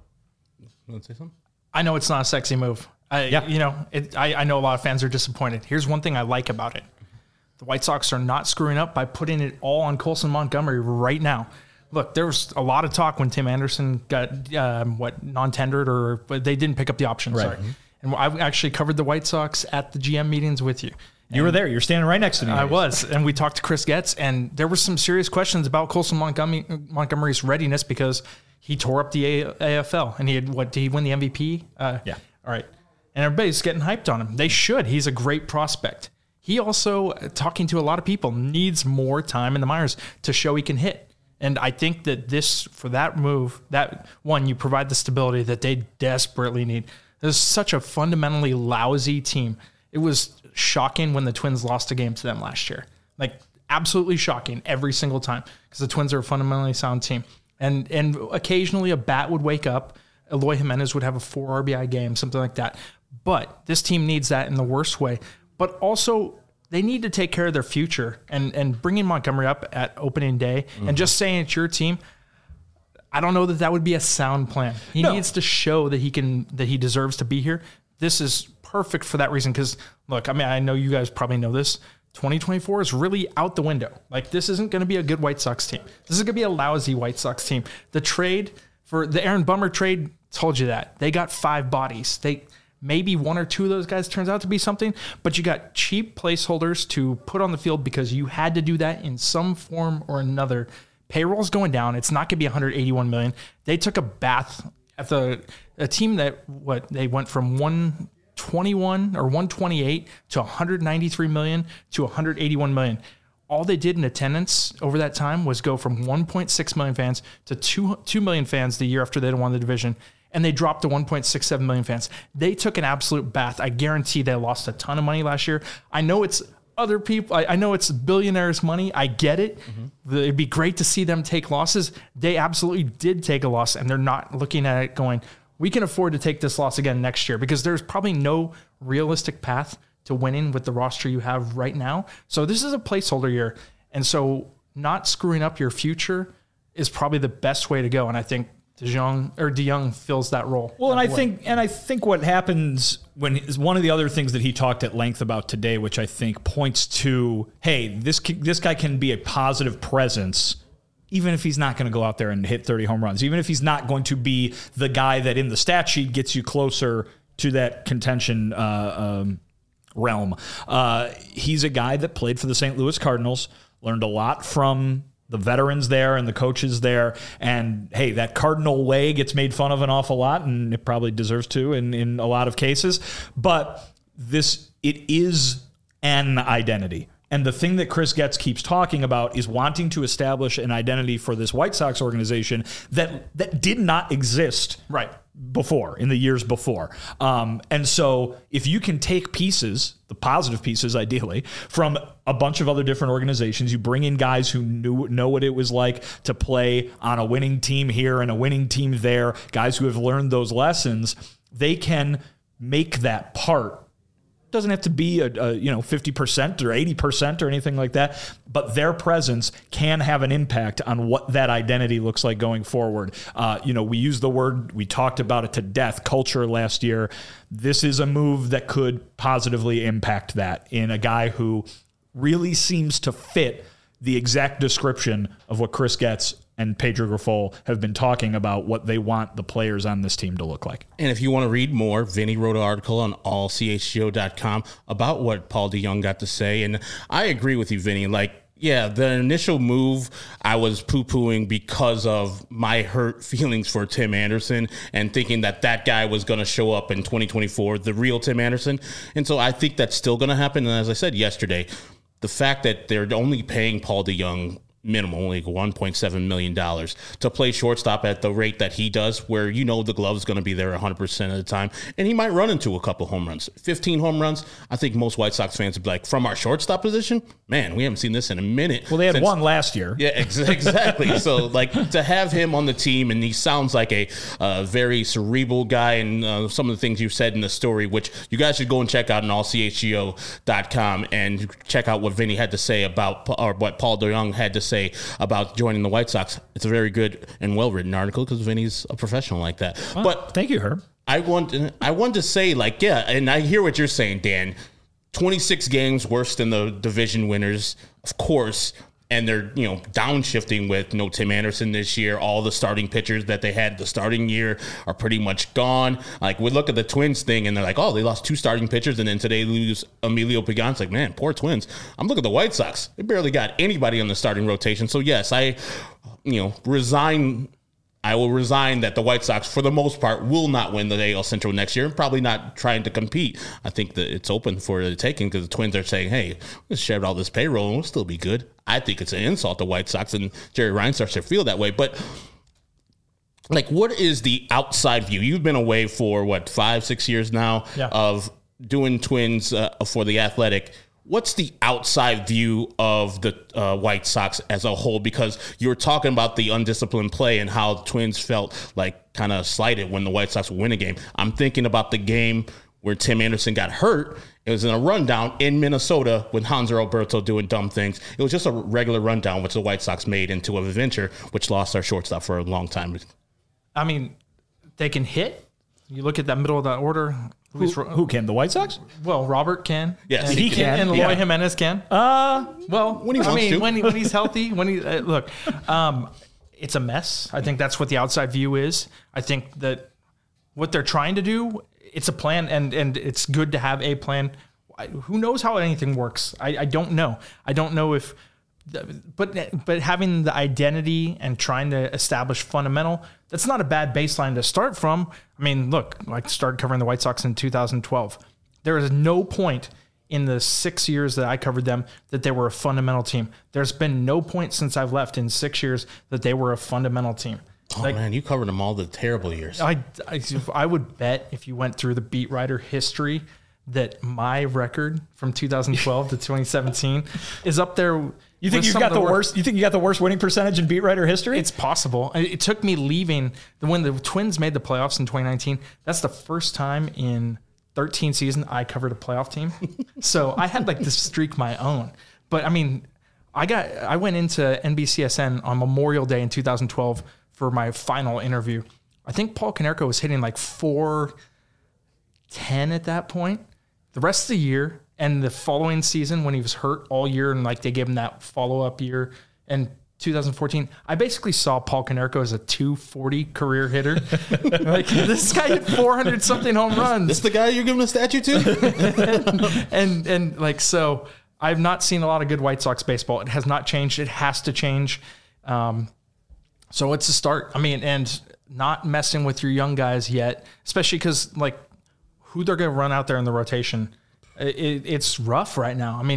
You want to say something? I know it's not a sexy move. I, Yeah. You know, it, I, I know a lot of fans are disappointed. Here's one thing I like about it. The White Sox are not screwing up by putting it all on Colson Montgomery right now. Look, there was a lot of talk when Tim Anderson got, um, what, non-tendered, or but they didn't pick up the option, Right. sorry. And I actually covered the White Sox at the G M meetings with you. You were there. You're standing right next to me. I was, and we talked to Chris Getz, and there were some serious questions about Colson Montgomery, Montgomery's readiness because he tore up the A F L, and he had, what, did he win the M V P? Uh, Yeah. All right. And everybody's getting hyped on him. They should. He's a great prospect. He also, talking to a lot of people, needs more time in the minors to show he can hit. And I think that this, for that move, that one, you provide the stability that they desperately need. There's such a fundamentally lousy team. It was shocking when the Twins lost a game to them last year. Like, absolutely shocking every single time, because the Twins are a fundamentally sound team. And and occasionally a bat would wake up. Eloy Jimenez would have a four R B I game, something like that. But this team needs that in the worst way. But also, they need to take care of their future. And, and bringing Montgomery up at opening day mm-hmm. and just saying it's your team, I don't know that that would be a sound plan. He no. needs to show that he can, that he deserves to be here. This is perfect for that reason. Because, look, I mean, I know you guys probably know this. twenty twenty-four is really out the window. Like, this isn't going to be a good White Sox team. This is going to be a lousy White Sox team. The trade for the Aaron Bummer trade told you that. They got five bodies. They maybe one or two of those guys turns out to be something, but you got cheap placeholders to put on the field because you had to do that in some form or another. Payroll's going down. It's not going to be one hundred eighty-one million. They took a bath at the a team that what they went from one twenty-one or one twenty-eight to one hundred ninety-three million to one hundred eighty-one million. All they did in attendance over that time was go from one point six million fans to two, two million fans the year after they won the division. And they dropped to one point six seven million fans. They took an absolute bath. I guarantee they lost a ton of money last year. I know it's other people. I, I know it's billionaires' money. I get it. Mm-hmm. It'd be great to see them take losses. They absolutely did take a loss, and they're not looking at it going, we can afford to take this loss again next year, because there's probably no realistic path to winning with the roster you have right now. So this is a placeholder year. And so not screwing up your future is probably the best way to go. And I think DeJong or DeJong fills that role. Well, and I way. think, and I think what happens when is one of the other things that he talked at length about today, which I think points to, hey, this this guy can be a positive presence, even if he's not going to go out there and hit thirty home runs, even if he's not going to be the guy that in the stat sheet gets you closer to that contention uh, um, realm. Uh, he's a guy that played for the Saint Louis Cardinals, learned a lot from the veterans there and the coaches there. And hey, that Cardinal way gets made fun of an awful lot, and it probably deserves to in, in a lot of cases. But this, it is an identity. And the thing that Chris Getz keeps talking about is wanting to establish an identity for this White Sox organization that that did not exist Right. before, in the years before. Um, and so if you can take pieces, the positive pieces ideally, from a bunch of other different organizations, you bring in guys who knew know what it was like to play on a winning team here and a winning team there, guys who have learned those lessons, they can make that part. Doesn't have to be a, a you know fifty percent or eighty percent or anything like that, but their presence can have an impact on what that identity looks like going forward. Uh, you know, we used the word, we talked about it to death, culture last year. This is a move that could positively impact that in a guy who really seems to fit the exact description of what Chris Getz and Pedro Grifol have been talking about, what they want the players on this team to look like. And if you want to read more, Vinny wrote an article on all c h g o dot com about what Paul DeJong got to say. And I agree with you, Vinny. Like, yeah, the initial move I was poo-pooing because of my hurt feelings for Tim Anderson and thinking that that guy was going to show up in twenty twenty-four, the real Tim Anderson. And so I think that's still going to happen. And as I said yesterday, the fact that they're only paying Paul DeJong minimum, like one point seven million dollars to play shortstop at the rate that he does, where you know the glove's going to be there one hundred percent of the time, and he might run into a couple home runs. fifteen home runs, I think most White Sox fans would be like, from our shortstop position, man, we haven't seen this in a minute. Well, they had since- one last year. Yeah, ex- exactly. So, like, to have him on the team, and he sounds like a uh, very cerebral guy, and uh, some of the things you said in the story, which you guys should go and check out on all c h g o dot com and check out what Vinny had to say about, or what Paul DeJong had to say about joining the White Sox. It's a very good and well-written article because Vinny's a professional like that. Well, but thank you, Herb. I want I want to say, like, yeah, and I hear what you're saying, Dan. twenty-six games worse than the division winners, of course, and they're, you know, downshifting with no Tim Anderson this year. All the starting pitchers that they had the starting year are pretty much gone. Like, we look at the Twins thing, and they're like, oh, they lost two starting pitchers, and then today lose Emilio Pagan. It's like, man, poor Twins. I'm looking at the White Sox. They barely got anybody on the starting rotation. So, yes, I, you know, resign... I will resign that the White Sox, for the most part, will not win the A L Central next year and probably not trying to compete. I think that it's open for the taking because the Twins are saying, hey, let's share all this payroll and we'll still be good. I think it's an insult to White Sox, and Jerry Reinsdorf should feel that way. But, like, what is the outside view? You've been away for, what, five, six years now yeah. of doing Twins uh, for The Athletic. What's the outside view of the uh, White Sox as a whole? Because you were talking about the undisciplined play and how the Twins felt like kind of slighted when the White Sox would win a game. I'm thinking about the game where Tim Anderson got hurt. It was in a rundown in Minnesota with Hanser Alberto doing dumb things. It was just a regular rundown, which the White Sox made into an adventure, which lost our shortstop for a long time. I mean, they can hit. You look at that middle of that order. Who, who can? The White Sox? Well, Robert can. Yes, and, he can. And Eloy Yeah. Jimenez can. Uh, Well, when he I wants mean, to. when, he, when he's healthy, when he uh, look, um, it's a mess. I think that's what the outside view is. I think that what they're trying to do, it's a plan, and and it's good to have a plan. I, who knows how anything works? I, I don't know. I don't know if, but but having the identity and trying to establish fundamental, that's not a bad baseline to start from. I mean, look, I started covering the White Sox in two thousand twelve. There is no point in the six years that I covered them that they were a fundamental team. There's been no point since I've left in six years that they were a fundamental team. Oh, like, man, you covered them all the terrible years. I, I, I would bet if you went through the beat writer history that my record from two thousand twelve to twenty seventeen is up there. You think you've got the, the worst? You think you got the worst winning percentage in beat writer history? It's possible. It took me leaving when the Twins made the playoffs in twenty nineteen. That's the first time in thirteen seasons I covered a playoff team. So I had like this streak my own. But I mean, I got I went into N B C S N on Memorial Day in two thousand twelve for my final interview. I think Paul Konerko was hitting like four ten at that point. The rest of the year and the following season when he was hurt all year and like they gave him that follow-up year in two thousand fourteen, I basically saw Paul Konerko as a two forty career hitter. Like, this guy hit four hundred something home runs. This the guy you're giving a statue to? and, and and like, so I've not seen a lot of good White Sox baseball. It has not changed. It has to change. Um, so it's a start. I mean, and not messing with your young guys yet, especially because like who they're going to run out there in the rotation. It, it's rough right now. I mean,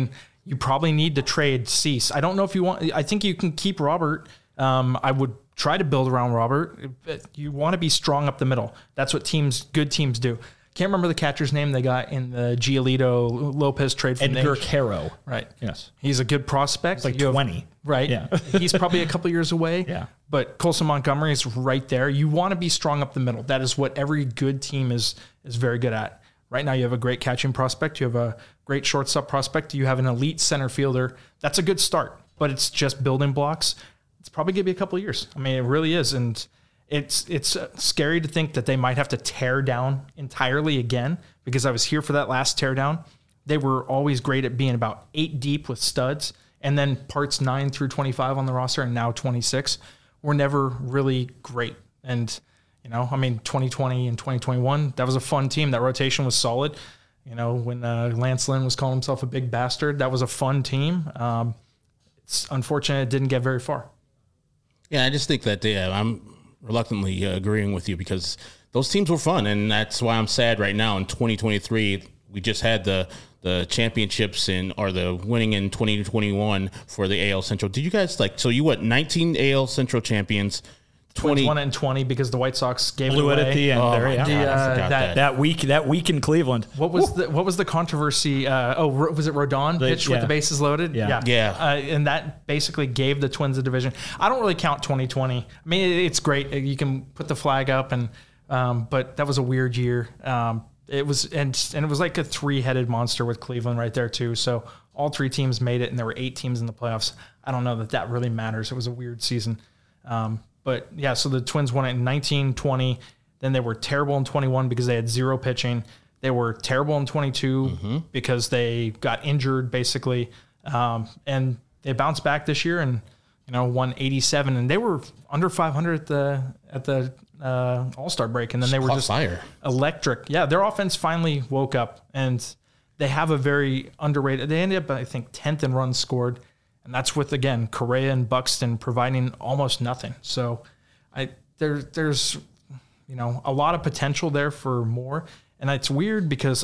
you probably need to trade Cease. I don't know if you want, I think you can keep Robert. Um, I would try to build around Robert. You want to be strong up the middle. That's what teams, good teams do. Can't remember the catcher's name they got in the Giolito Lopez trade. From Edgar Caro. Right. Yes. He's a good prospect. It's like You twenty. Have, right. Yeah. He's probably a couple years away. Yeah. But Colson Montgomery is right there. You want to be strong up the middle. That is what every good team is is very good at. Right now you have a great catching prospect. You have a great shortstop prospect. You have an elite center fielder. That's a good start. But it's just building blocks. It's probably going to be a couple of years. I mean, it really is. And It's it's scary to think that they might have to tear down entirely again, because I was here for that last tear down. They were always great at being about eight deep with studs, and then parts nine through twenty-five on the roster, and now twenty-six were never really great. And, you know, I mean, twenty twenty and twenty twenty-one, that was a fun team. That rotation was solid. You know, when uh, Lance Lynn was calling himself a big bastard, that was a fun team. Um, it's unfortunate it didn't get very far. Yeah, I just think that yeah, I'm reluctantly uh, agreeing with you, because those teams were fun, and that's why I'm sad right now in twenty twenty-three. We just had the the championships in or the winning in twenty twenty-one for the A L Central. Did you guys like so you what nineteen A L Central champions, twenty twenty-one and twenty because the White Sox gave Blew it it away. at the end. Oh, there, my yeah. God, The, I uh, forgot that- that. That week, that week in Cleveland. What was the what was the controversy? Uh, oh, Ro- was it Rodon The- pitched with yeah. the bases loaded? Yeah. Yeah. Uh, and that basically gave the Twins a division. I don't really count twenty twenty. I mean, it- it's great. You can put the flag up, and um, but that was a weird year. Um, it was and and it was like a three headed monster with Cleveland right there too. So all three teams made it, and there were eight teams in the playoffs. I don't know that that really matters. It was a weird season. Um, But yeah, so the Twins won it in nineteen, twenty. Then they were terrible in twenty-one because they had zero pitching. They were terrible in twenty-two Mm-hmm. because they got injured basically. Um, and they bounced back this year and, you know, won eighty-seven. And they were under five hundred at the at the uh, All-Star break. And then they were Caught just fire. electric. Yeah, their offense finally woke up, and they have a very underrated. They ended up, I think, tenth in runs scored. And that's with, again, Correa and Buxton providing almost nothing. So I there there's, you know, a lot of potential there for more. And it's weird because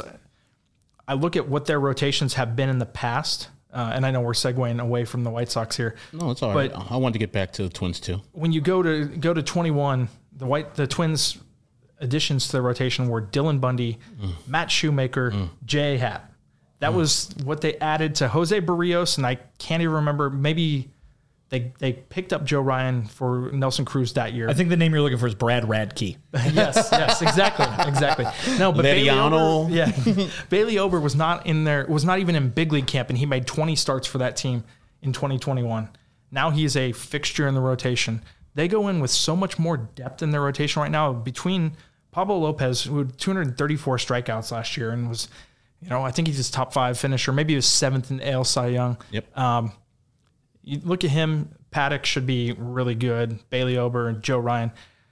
I look at what their rotations have been in the past. Uh, and I know we're segueing away from the White Sox here. No, it's all right. But- I wanted to get back to the Twins too. When you go to go to twenty-one, the white the Twins additions to the rotation were Dylan Bundy, Mm. Matt Shoemaker, J A. Happ. That was what they added to Jose Barrios, and I can't even remember. Maybe they they picked up Joe Ryan for Nelson Cruz that year. I think the name you're looking for is Brad Radke. yes, yes, exactly, exactly. No, but Bailey Lediano. Ober, yeah, Bailey Ober was not in there. Was not even in big league camp, and he made twenty starts for that team in twenty twenty-one. Now he's a fixture in the rotation. They go in with so much more depth in their rotation right now. Between Pablo Lopez, who had two hundred thirty-four strikeouts last year, and was, you know, I think he's his top five finisher. Maybe he was seventh in A L Cy Young. Yep. Um, you look at him. Paddock should be really good. Bailey Ober and Joe Ryan.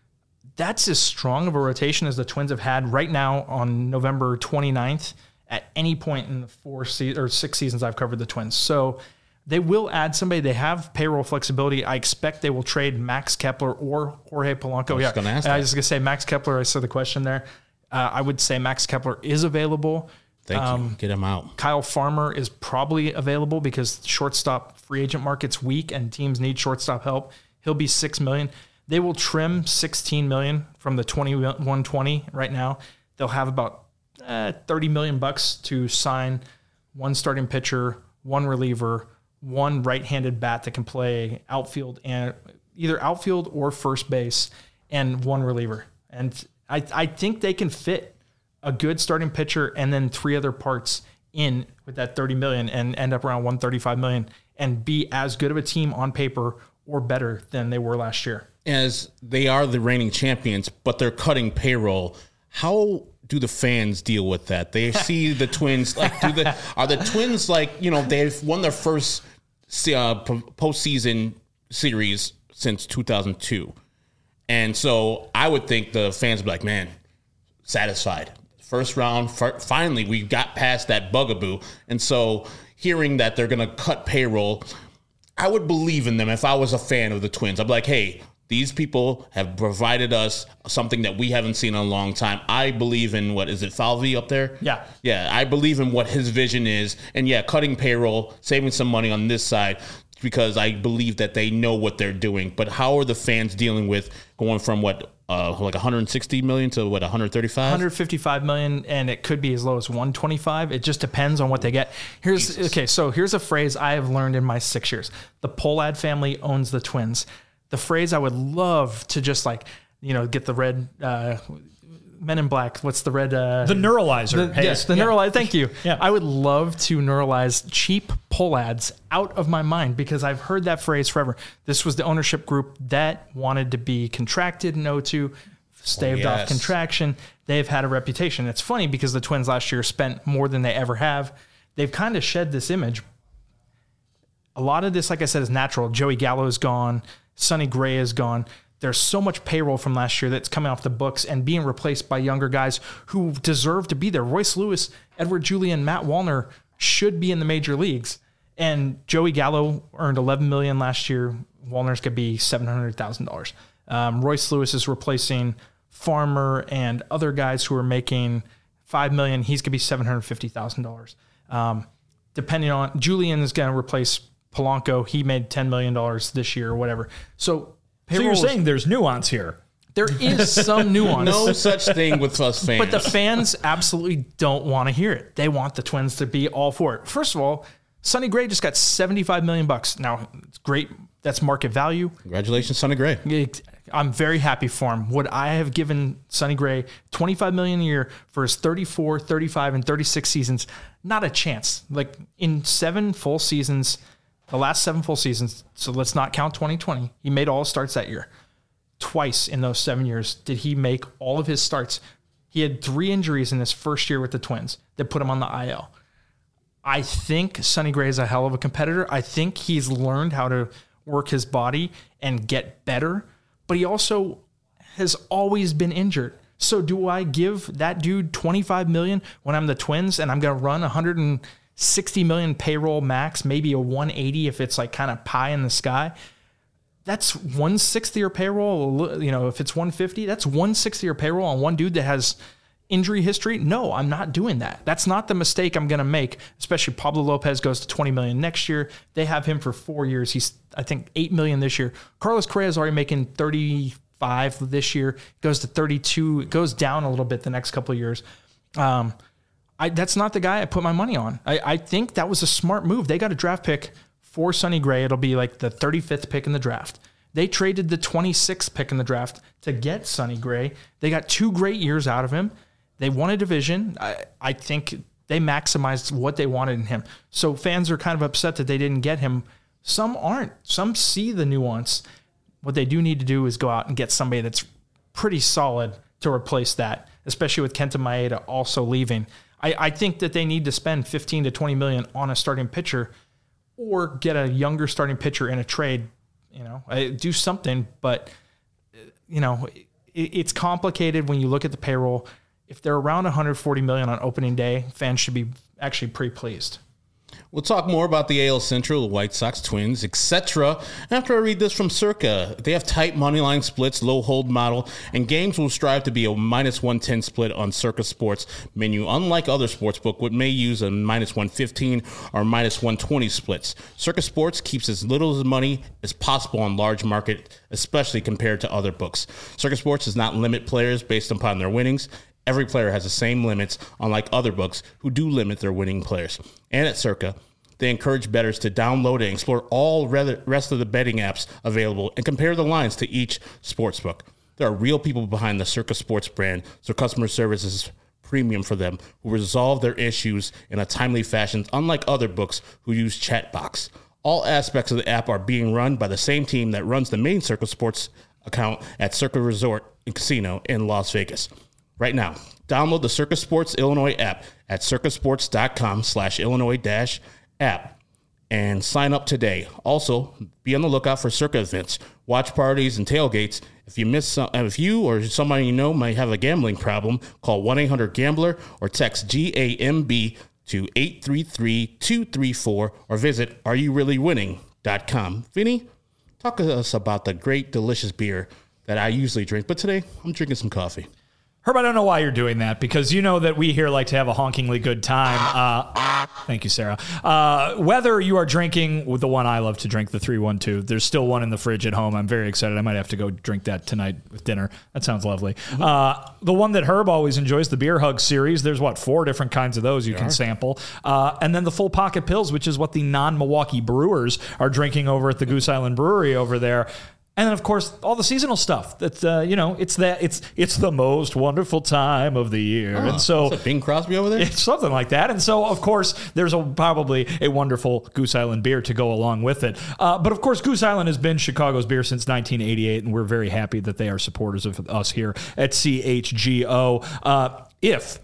That's as strong of a rotation as the Twins have had right now on November twenty-ninth at any point in the four se- or six seasons I've covered the Twins. So they will add somebody. They have payroll flexibility. I expect they will trade Max Kepler or Jorge Polanco. I was yeah, gonna ask I that. was going to say Max Kepler. I saw the question there. Uh, I would say Max Kepler is available. Thank Um, you. Get him out. Kyle Farmer is probably available because shortstop free agent market's weak and teams need shortstop help. He'll be six million. They will trim sixteen million from the twenty-one twenty right now. They'll have about uh, thirty million bucks to sign one starting pitcher, one reliever, one right-handed bat that can play outfield and either outfield or first base, and one reliever. And I I think they can fit a good starting pitcher and then three other parts in with that thirty million and end up around one thirty-five million and be as good of a team on paper or better than they were last year. As they are the reigning champions, but they're cutting payroll. How do the fans deal with that? They see the Twins like do the are the Twins like, you know, they've won their first uh, postseason series since two thousand two. And so I would think the fans would be like, man, satisfied. First round, f- finally, we got past that bugaboo. And so hearing that they're going to cut payroll, I would believe in them if I was a fan of the Twins. I'd be like, hey, These people have provided us something that we haven't seen in a long time. I believe in, what is it, Falvey up there? Yeah. Yeah, I believe in what his vision is. And yeah, cutting payroll, saving some money on this side, because I believe that they know what they're doing. But how are the fans dealing with going from what, uh, like one hundred sixty million to what, one hundred thirty-five? one hundred fifty-five million, and it could be as low as one hundred twenty-five. It just depends on what they get. Here's Jesus. Okay, so here's a phrase I have learned in my six years. The Pohlad family owns the Twins. The phrase I would love to just like, you know, get the red uh, Men in Black. What's the red? Uh, the neuralizer. The, hey, yes, the yeah. neuralizer. Thank you. Yeah. I would love to neuralize cheap Pohlads out of my mind, because I've heard that phrase forever. This was the ownership group that wanted to be contracted in oh two, staved oh, off yes. contraction. They've had a reputation. It's funny because the Twins last year spent more than they ever have. They've kind of shed this image. A lot of this, like I said, is natural. Joey Gallo is gone. Sonny Gray is gone. There's so much payroll from last year that's coming off the books and being replaced by younger guys who deserve to be there. Royce Lewis, Edward Julian, Matt Wallner should be in the major leagues. And Joey Gallo earned eleven million dollars last year. Wallner's could be seven hundred thousand dollars. Um, Royce Lewis is replacing Farmer and other guys who are making five million dollars. He's going to be seven hundred fifty thousand dollars. Um, depending on, Julian is going to replace Polanco. He made ten million dollars this year or whatever. So, So you're saying there's nuance here. There is some nuance. No such thing with us fans. But the fans absolutely don't want to hear it. They want the Twins to be all for it. First of all, Sonny Gray just got seventy-five million bucks. Now, it's great. That's market value. Congratulations, Sonny Gray. I'm very happy for him. Would I have given Sonny Gray twenty-five million dollars a year for his thirty-four, thirty-five, and thirty-six seasons? Not a chance. Like in seven full seasons, the last seven full seasons, so let's not count twenty twenty. He made all starts that year. Twice in those seven years did he make all of his starts. He had three injuries in his first year with the Twins that put him on the I L. I think Sonny Gray is a hell of a competitor. I think he's learned how to work his body and get better, but he also has always been injured. So do I give that dude twenty-five million dollars when I'm the Twins and I'm going to run one hundred sixty million dollars payroll max, maybe a one eighty if it's like kind of pie in the sky? That's one sixth of your payroll. You know, if it's one fifty, that's one sixth of your payroll on one dude that has injury history. No, I'm not doing that. That's not the mistake I'm going to make, especially Pablo Lopez goes to twenty million dollars next year. They have him for four years. He's, I think, eight million dollars this year. Carlos Correa is already making thirty-five this year. Goes to thirty-two. It goes down a little bit the next couple of years. Um, I, that's not the guy I put my money on. I, I think that was a smart move. They got a draft pick for Sonny Gray. It'll be like the thirty-fifth pick in the draft. They traded the twenty-sixth pick in the draft to get Sonny Gray. They got two great years out of him. They won a division. I, I think they maximized what they wanted in him. So fans are kind of upset that they didn't get him. Some aren't. Some see the nuance. What they do need to do is go out and get somebody that's pretty solid to replace that, especially with Kenta Maeda also leaving. I, I think that they need to spend fifteen to twenty million on a starting pitcher or get a younger starting pitcher in a trade. You know, do something, but you know, it, it's complicated when you look at the payroll. If they're around one hundred forty million on opening day, fans should be actually pretty pleased. We'll talk more about the A L Central, the White Sox, Twins, et cetera after I read this from Circa. They have tight moneyline splits, low hold model, and games will strive to be a minus one ten split on Circa Sports menu, unlike other sportsbook, which may use a minus one fifteen or minus one twenty splits. Circa Sports keeps as little as money as possible on large market, especially compared to other books. Circa Sports does not limit players based upon their winnings. Every player has the same limits, unlike other books who do limit their winning players. And at Circa, they encourage bettors to download and explore all rest of the betting apps available and compare the lines to each sportsbook. There are real people behind the Circa Sports brand, so customer service is premium for them, who resolve their issues in a timely fashion, unlike other books who use Chatbox. All aspects of the app are being run by the same team that runs the main Circa Sports account at Circa Resort and Casino in Las Vegas. Right now, download the Circa Sports Illinois app at circasports.com slash Illinois dash app and sign up today. Also, be on the lookout for Circa events, watch parties, and tailgates. If you miss some, if you or somebody you know might have a gambling problem, call one eight hundred gambler or text G A M B to eight three three two three four or visit are you really winning dot com. Vinny, talk to us about the great, delicious beer that I usually drink. But today, I'm drinking some coffee. Herb, I don't know why you're doing that, because you know that we here like to have a honkingly good time. Uh, thank you, Sarah. Uh, whether you are drinking with the one I love to drink, the three one two, there's still one in the fridge at home. I'm very excited. I might have to go drink that tonight with dinner. That sounds lovely. Mm-hmm. Uh, the one that Herb always enjoys, the Beer Hug series. There's, what, four different kinds of those you there can are. sample. Uh, and then the Full Pocket Pills, which is what the non-Milwaukee brewers are drinking over at the Goose Island Brewery over there. And then, of course, all the seasonal stuff. That's uh, you know, it's that it's it's the most wonderful time of the year, oh, and so is that Bing Crosby over there. It's something like that. And so, of course, there's a, probably a wonderful Goose Island beer to go along with it. Uh, but of course, Goose Island has been Chicago's beer since nineteen eighty-eight, and we're very happy that they are supporters of us here at C H G O. Uh, if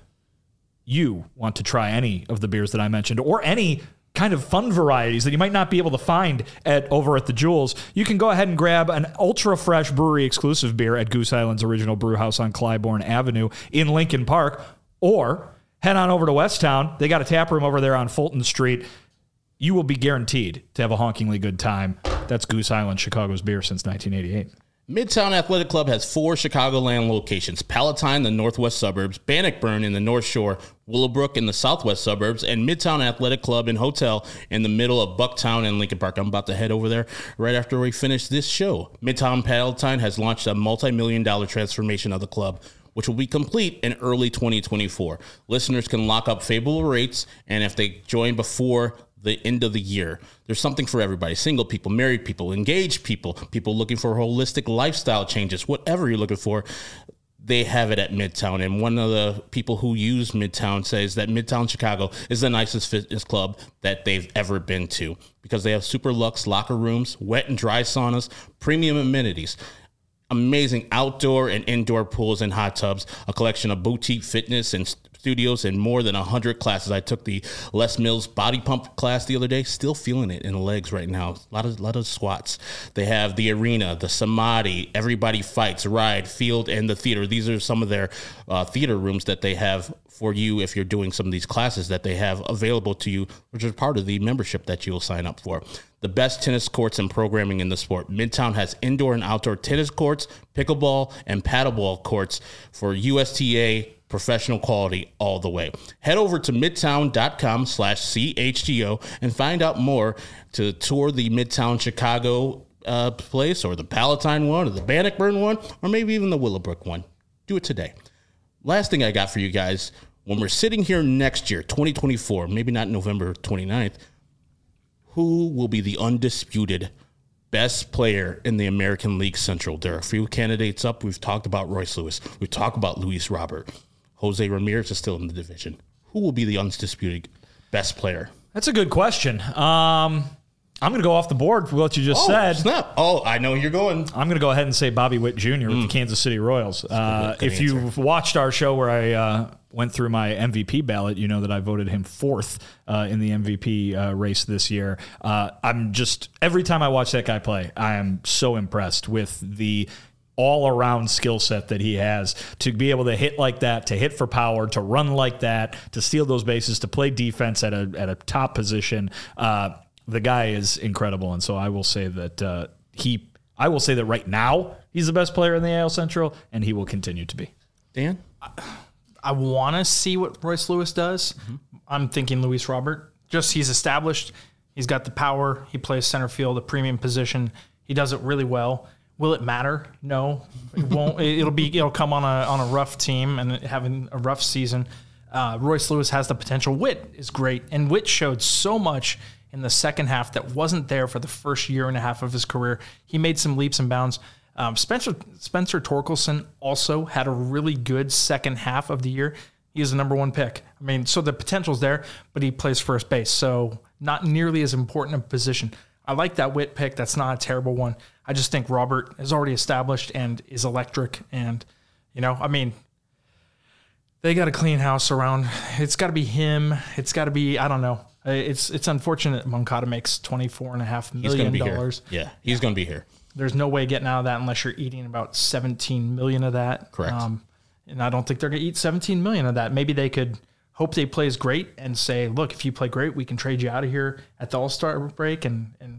you want to try any of the beers that I mentioned, or any kind of fun varieties that you might not be able to find at over at the Jewels, you can go ahead and grab an ultra fresh brewery exclusive beer at Goose Island's original brew house on Clybourne Avenue in Lincoln Park, or head on over to Westtown. They got a tap room over there on Fulton Street. You will be guaranteed to have a honkingly good time. That's Goose Island, Chicago's beer since nineteen eighty-eight. Midtown Athletic Club has four Chicagoland locations: Palatine in the northwest suburbs, Bannockburn in the North Shore, Willowbrook in the southwest suburbs, and Midtown Athletic Club and Hotel in the middle of Bucktown and Lincoln Park. I'm about to head over there right after we finish this show. Midtown Palatine has launched a multi-million dollar transformation of the club, which will be complete in early twenty twenty-four. Listeners can lock up favorable rates, and if they join before the end of the year, there's something for everybody: single people, married people, engaged people, people looking for holistic lifestyle changes, whatever you're looking for, they have it at Midtown. And one of the people who use Midtown says that Midtown Chicago is the nicest fitness club that they've ever been to, because they have super luxe locker rooms, wet and dry saunas, premium amenities, amazing outdoor and indoor pools and hot tubs, a collection of boutique fitness and studios, and more than one hundred classes. I took the Les Mills body pump class the other day, still feeling it in the legs right now. A lot of, lot of squats. They have the arena, the Samadhi, Everybody Fights, Ride, Field, and the theater. These are some of their uh, theater rooms that they have for you if you're doing some of these classes that they have available to you, which is part of the membership that you will sign up for. The best tennis courts and programming in the sport. Midtown has indoor and outdoor tennis courts, pickleball, and paddleball courts for U S T A professional quality all the way. Head over to midtown.com slash CHGO and find out more to tour the Midtown Chicago uh, place, or the Palatine one, or the Bannockburn one, or maybe even the Willowbrook one. Do it today. Last thing I got for you guys, when we're sitting here next year, twenty twenty-four, maybe not November twenty-ninth, who will be the undisputed best player in the American League Central? There are a few candidates up. We've talked about Royce Lewis. We've talked about Luis Robert. Jose Ramirez is still in the division. Who will be the undisputed best player? That's a good question. Um, I'm going to go off the board for what you just oh, said. Snap. Oh, I know you're going. I'm going to go ahead and say Bobby Witt Junior with mm. the Kansas City Royals. Uh, good, good if answer. You've watched our show where I uh, went through my M V P ballot, you know that I voted him fourth uh, in the M V P uh, race this year. Uh, I'm just, every time I watch that guy play, I am so impressed with the all-around skill set that he has to be able to hit like that, to hit for power, to run like that, to steal those bases, to play defense at a at a top position. Uh, the guy is incredible, and so I will say that uh, he. I will say that right now he's the best player in the A L Central, and he will continue to be. Dan, I, I want to see what Royce Lewis does. Mm-hmm. I'm thinking Luis Robert. Just he's established. He's got the power. He plays center field, a premium position. He does it really well. Will it matter? No, it won't. It'll be. It'll come on a on a rough team and having a rough season. Uh, Royce Lewis has the potential. Witt is great, and Witt showed so much in the second half that wasn't there for the first year and a half of his career. He made some leaps and bounds. Um, Spencer Spencer Torkelson also had a really good second half of the year. He is the number one pick. I mean, so the potential's there, but he plays first base, so not nearly as important a position. I like that Witt pick. That's not a terrible one. I just think Robert is already established and is electric. And, you know, I mean, they got a clean house around. It's got to be him. It's got to be, I don't know. It's it's unfortunate Moncada makes twenty-four point five million dollars. Yeah, he's going to be here. There's no way getting out of that unless you're eating about seventeen million dollars of that. Correct. Um, and I don't think they're going to eat seventeen million dollars of that. Maybe they could hope they plays great and say, look, if you play great, we can trade you out of here at the All-Star break and, and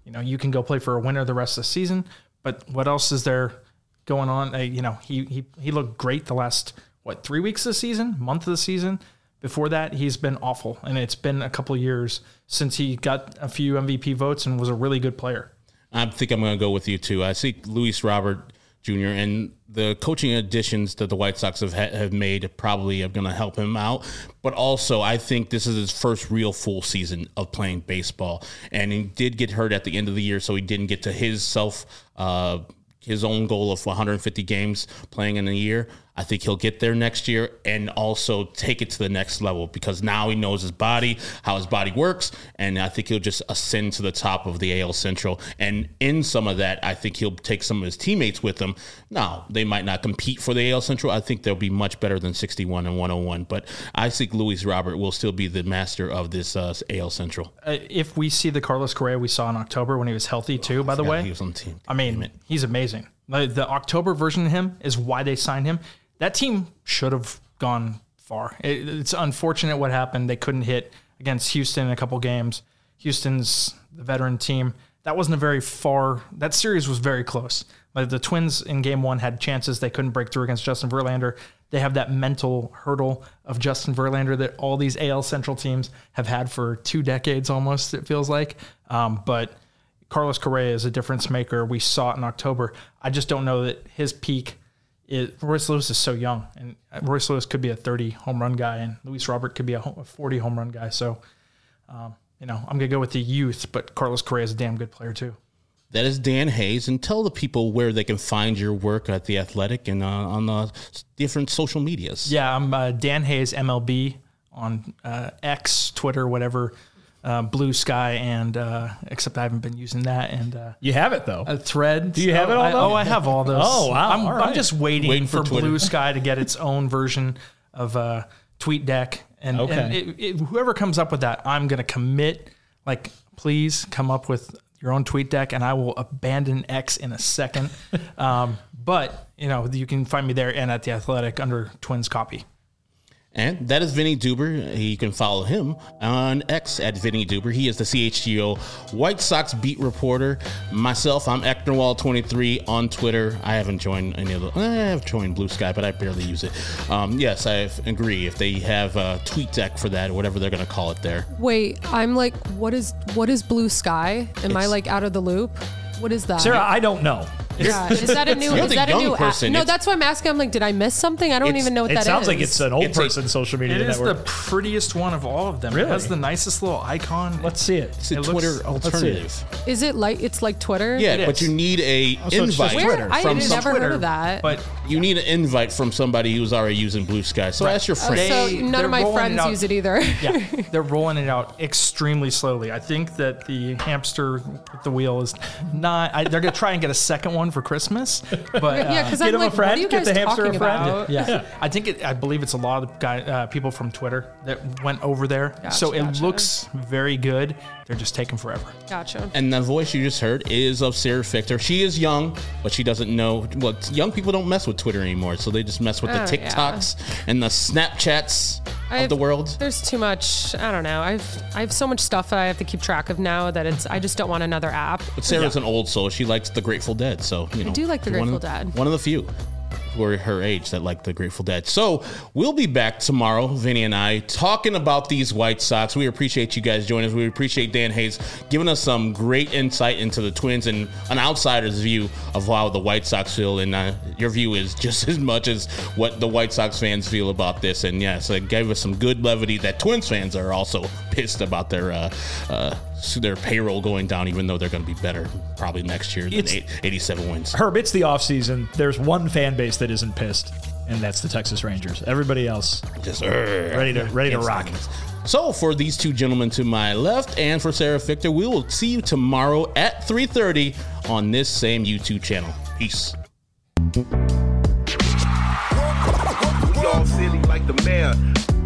you know, you can go play for a winner the rest of the season. But what else is there going on? Uh, you know, he he he looked great the last what three weeks of the season, month of the season. Before that, he's been awful, and it's been a couple of years since he got a few M V P votes and was a really good player. I think I'm going to go with you too. I see Luis Robert Junior and the coaching additions that the White Sox have ha- have made probably are going to help him out. But also, I think this is his first real full season of playing baseball, and he did get hurt at the end of the year, so he didn't get to his self uh, his own goal of one hundred fifty games playing in a year. I think he'll get there next year and also take it to the next level because now he knows his body, how his body works, and I think he'll just ascend to the top of the A L Central. And in some of that, I think he'll take some of his teammates with him. Now, they might not compete for the A L Central. I think they'll be much better than sixty-one and one oh one, but I think Luis Robert will still be the master of this uh, A L Central. Uh, if we see the Carlos Correa we saw in October when he was healthy too, oh, by the way, he was on the team. I mean, he's amazing. The, the October version of him is why they signed him. That team should have gone far. It, it's unfortunate what happened. They couldn't hit against Houston in a couple games. Houston's the veteran team. That wasn't a very far. That series was very close. Like the Twins in game one had chances. They couldn't break through against Justin Verlander. They have that mental hurdle of Justin Verlander that all these A L Central teams have had for two decades almost, it feels like. Um, but Carlos Correa is a difference maker. We saw it in October. I just don't know that his peak is. Royce Lewis is so young, and Royce Lewis could be a thirty home run guy, and Luis Robert could be a forty home run guy. So, um, you know, I'm going to go with the youth, but Carlos Correa is a damn good player too. That is Dan Hayes, and tell the people where they can find your work at The Athletic and uh, on the different social medias. Yeah, I'm uh, Dan Hayes M L B on uh, X, Twitter, whatever. Uh, Blue Sky, and uh, except I haven't been using that. And uh, you have it though. A Thread. Do you have oh, it all? I, oh, I have all those. Oh wow! I'm, right. I'm just waiting, waiting for, for Blue Sky to get its own version of uh, TweetDeck, and, okay. and it, it, whoever comes up with that, I'm gonna commit. Like, please come up with your own TweetDeck, and I will abandon X in a second. um, but you know, you can find me there and at The Athletic under Twins Copy. And that is Vinny Duber. You can follow him on X at Vinny Duber. He is the C H G O White Sox beat reporter. Myself, I'm Eknerwall twenty-three on Twitter. I haven't joined any of the. I have joined Blue Sky, but I barely use it. Um, yes, I agree. If they have a TweetDeck for that, or whatever they're going to call it there. Wait, I'm like, what is what is Blue Sky? Am It's, I like out of the loop? What is that? Sarah, I don't know. Yeah, is that a new? You're is the that a young new? person. App? No, It's- that's why I'm asking. I'm like, did I miss something? I don't It's- even know what It that is. sounds like it's an old It's a- person social media It is network. the prettiest one of all of them. Really? It has the nicest little icon. Let's see it. It's a It Twitter looks- alternative. Is it like it's like Twitter? Yeah, It but is. you need a so it's just invite Where? Twitter. I from had some never Twitter, heard of that. But You need an invite from somebody who's already using Blue Sky. So ask your Oh, friend. so They- none they're of my rolling it friends out. use it either. yeah, they're rolling it out extremely slowly. I think that the hamster with the wheel is not. I, they're gonna try and get a second one for Christmas, but uh, yeah, because Get I'm him a like, friend, what are you get guys the hamster talking a friend. about? yeah, I think it, I believe it's a lot of guy, uh, people from Twitter that went over there. Gotcha, so it gotcha. looks very good. They're just taking forever. Gotcha. And the voice you just heard is of Sarah Fichter. She is young, but she doesn't know. Well, young people don't mess with Twitter anymore, so they just mess with the Oh, TikToks and the Snapchats I've- of the world. There's too much. I don't know. I've I have so much stuff that I have to keep track of now that it's. I just don't want another app. But Sarah's an old soul. She likes the Grateful Dead, so you know. do like the one of- Grateful Dead. One of the few who are her age that like the Grateful Dead. So we'll be back tomorrow, Vinny and I, talking about these White Sox. We appreciate you guys joining us. We appreciate Dan Hayes giving us some great insight into the Twins and an outsider's view of how the White Sox feel. And uh, your view is just as much as what the White Sox fans feel about this. And yes, it gave us some good levity that Twins fans are also pissed about their uh, uh, their payroll going down, even though they're going to be better probably next year than It's- eight, eighty-seven wins. Herb, it's the offseason. There's one fan base that isn't pissed, and that's the Texas Rangers. Everybody else Just uh, ready to ready to rock. So for these two gentlemen to my left and for Sarah Fichter, we will see you tomorrow at three thirty on this same YouTube channel. Peace. We all silly like the mayor.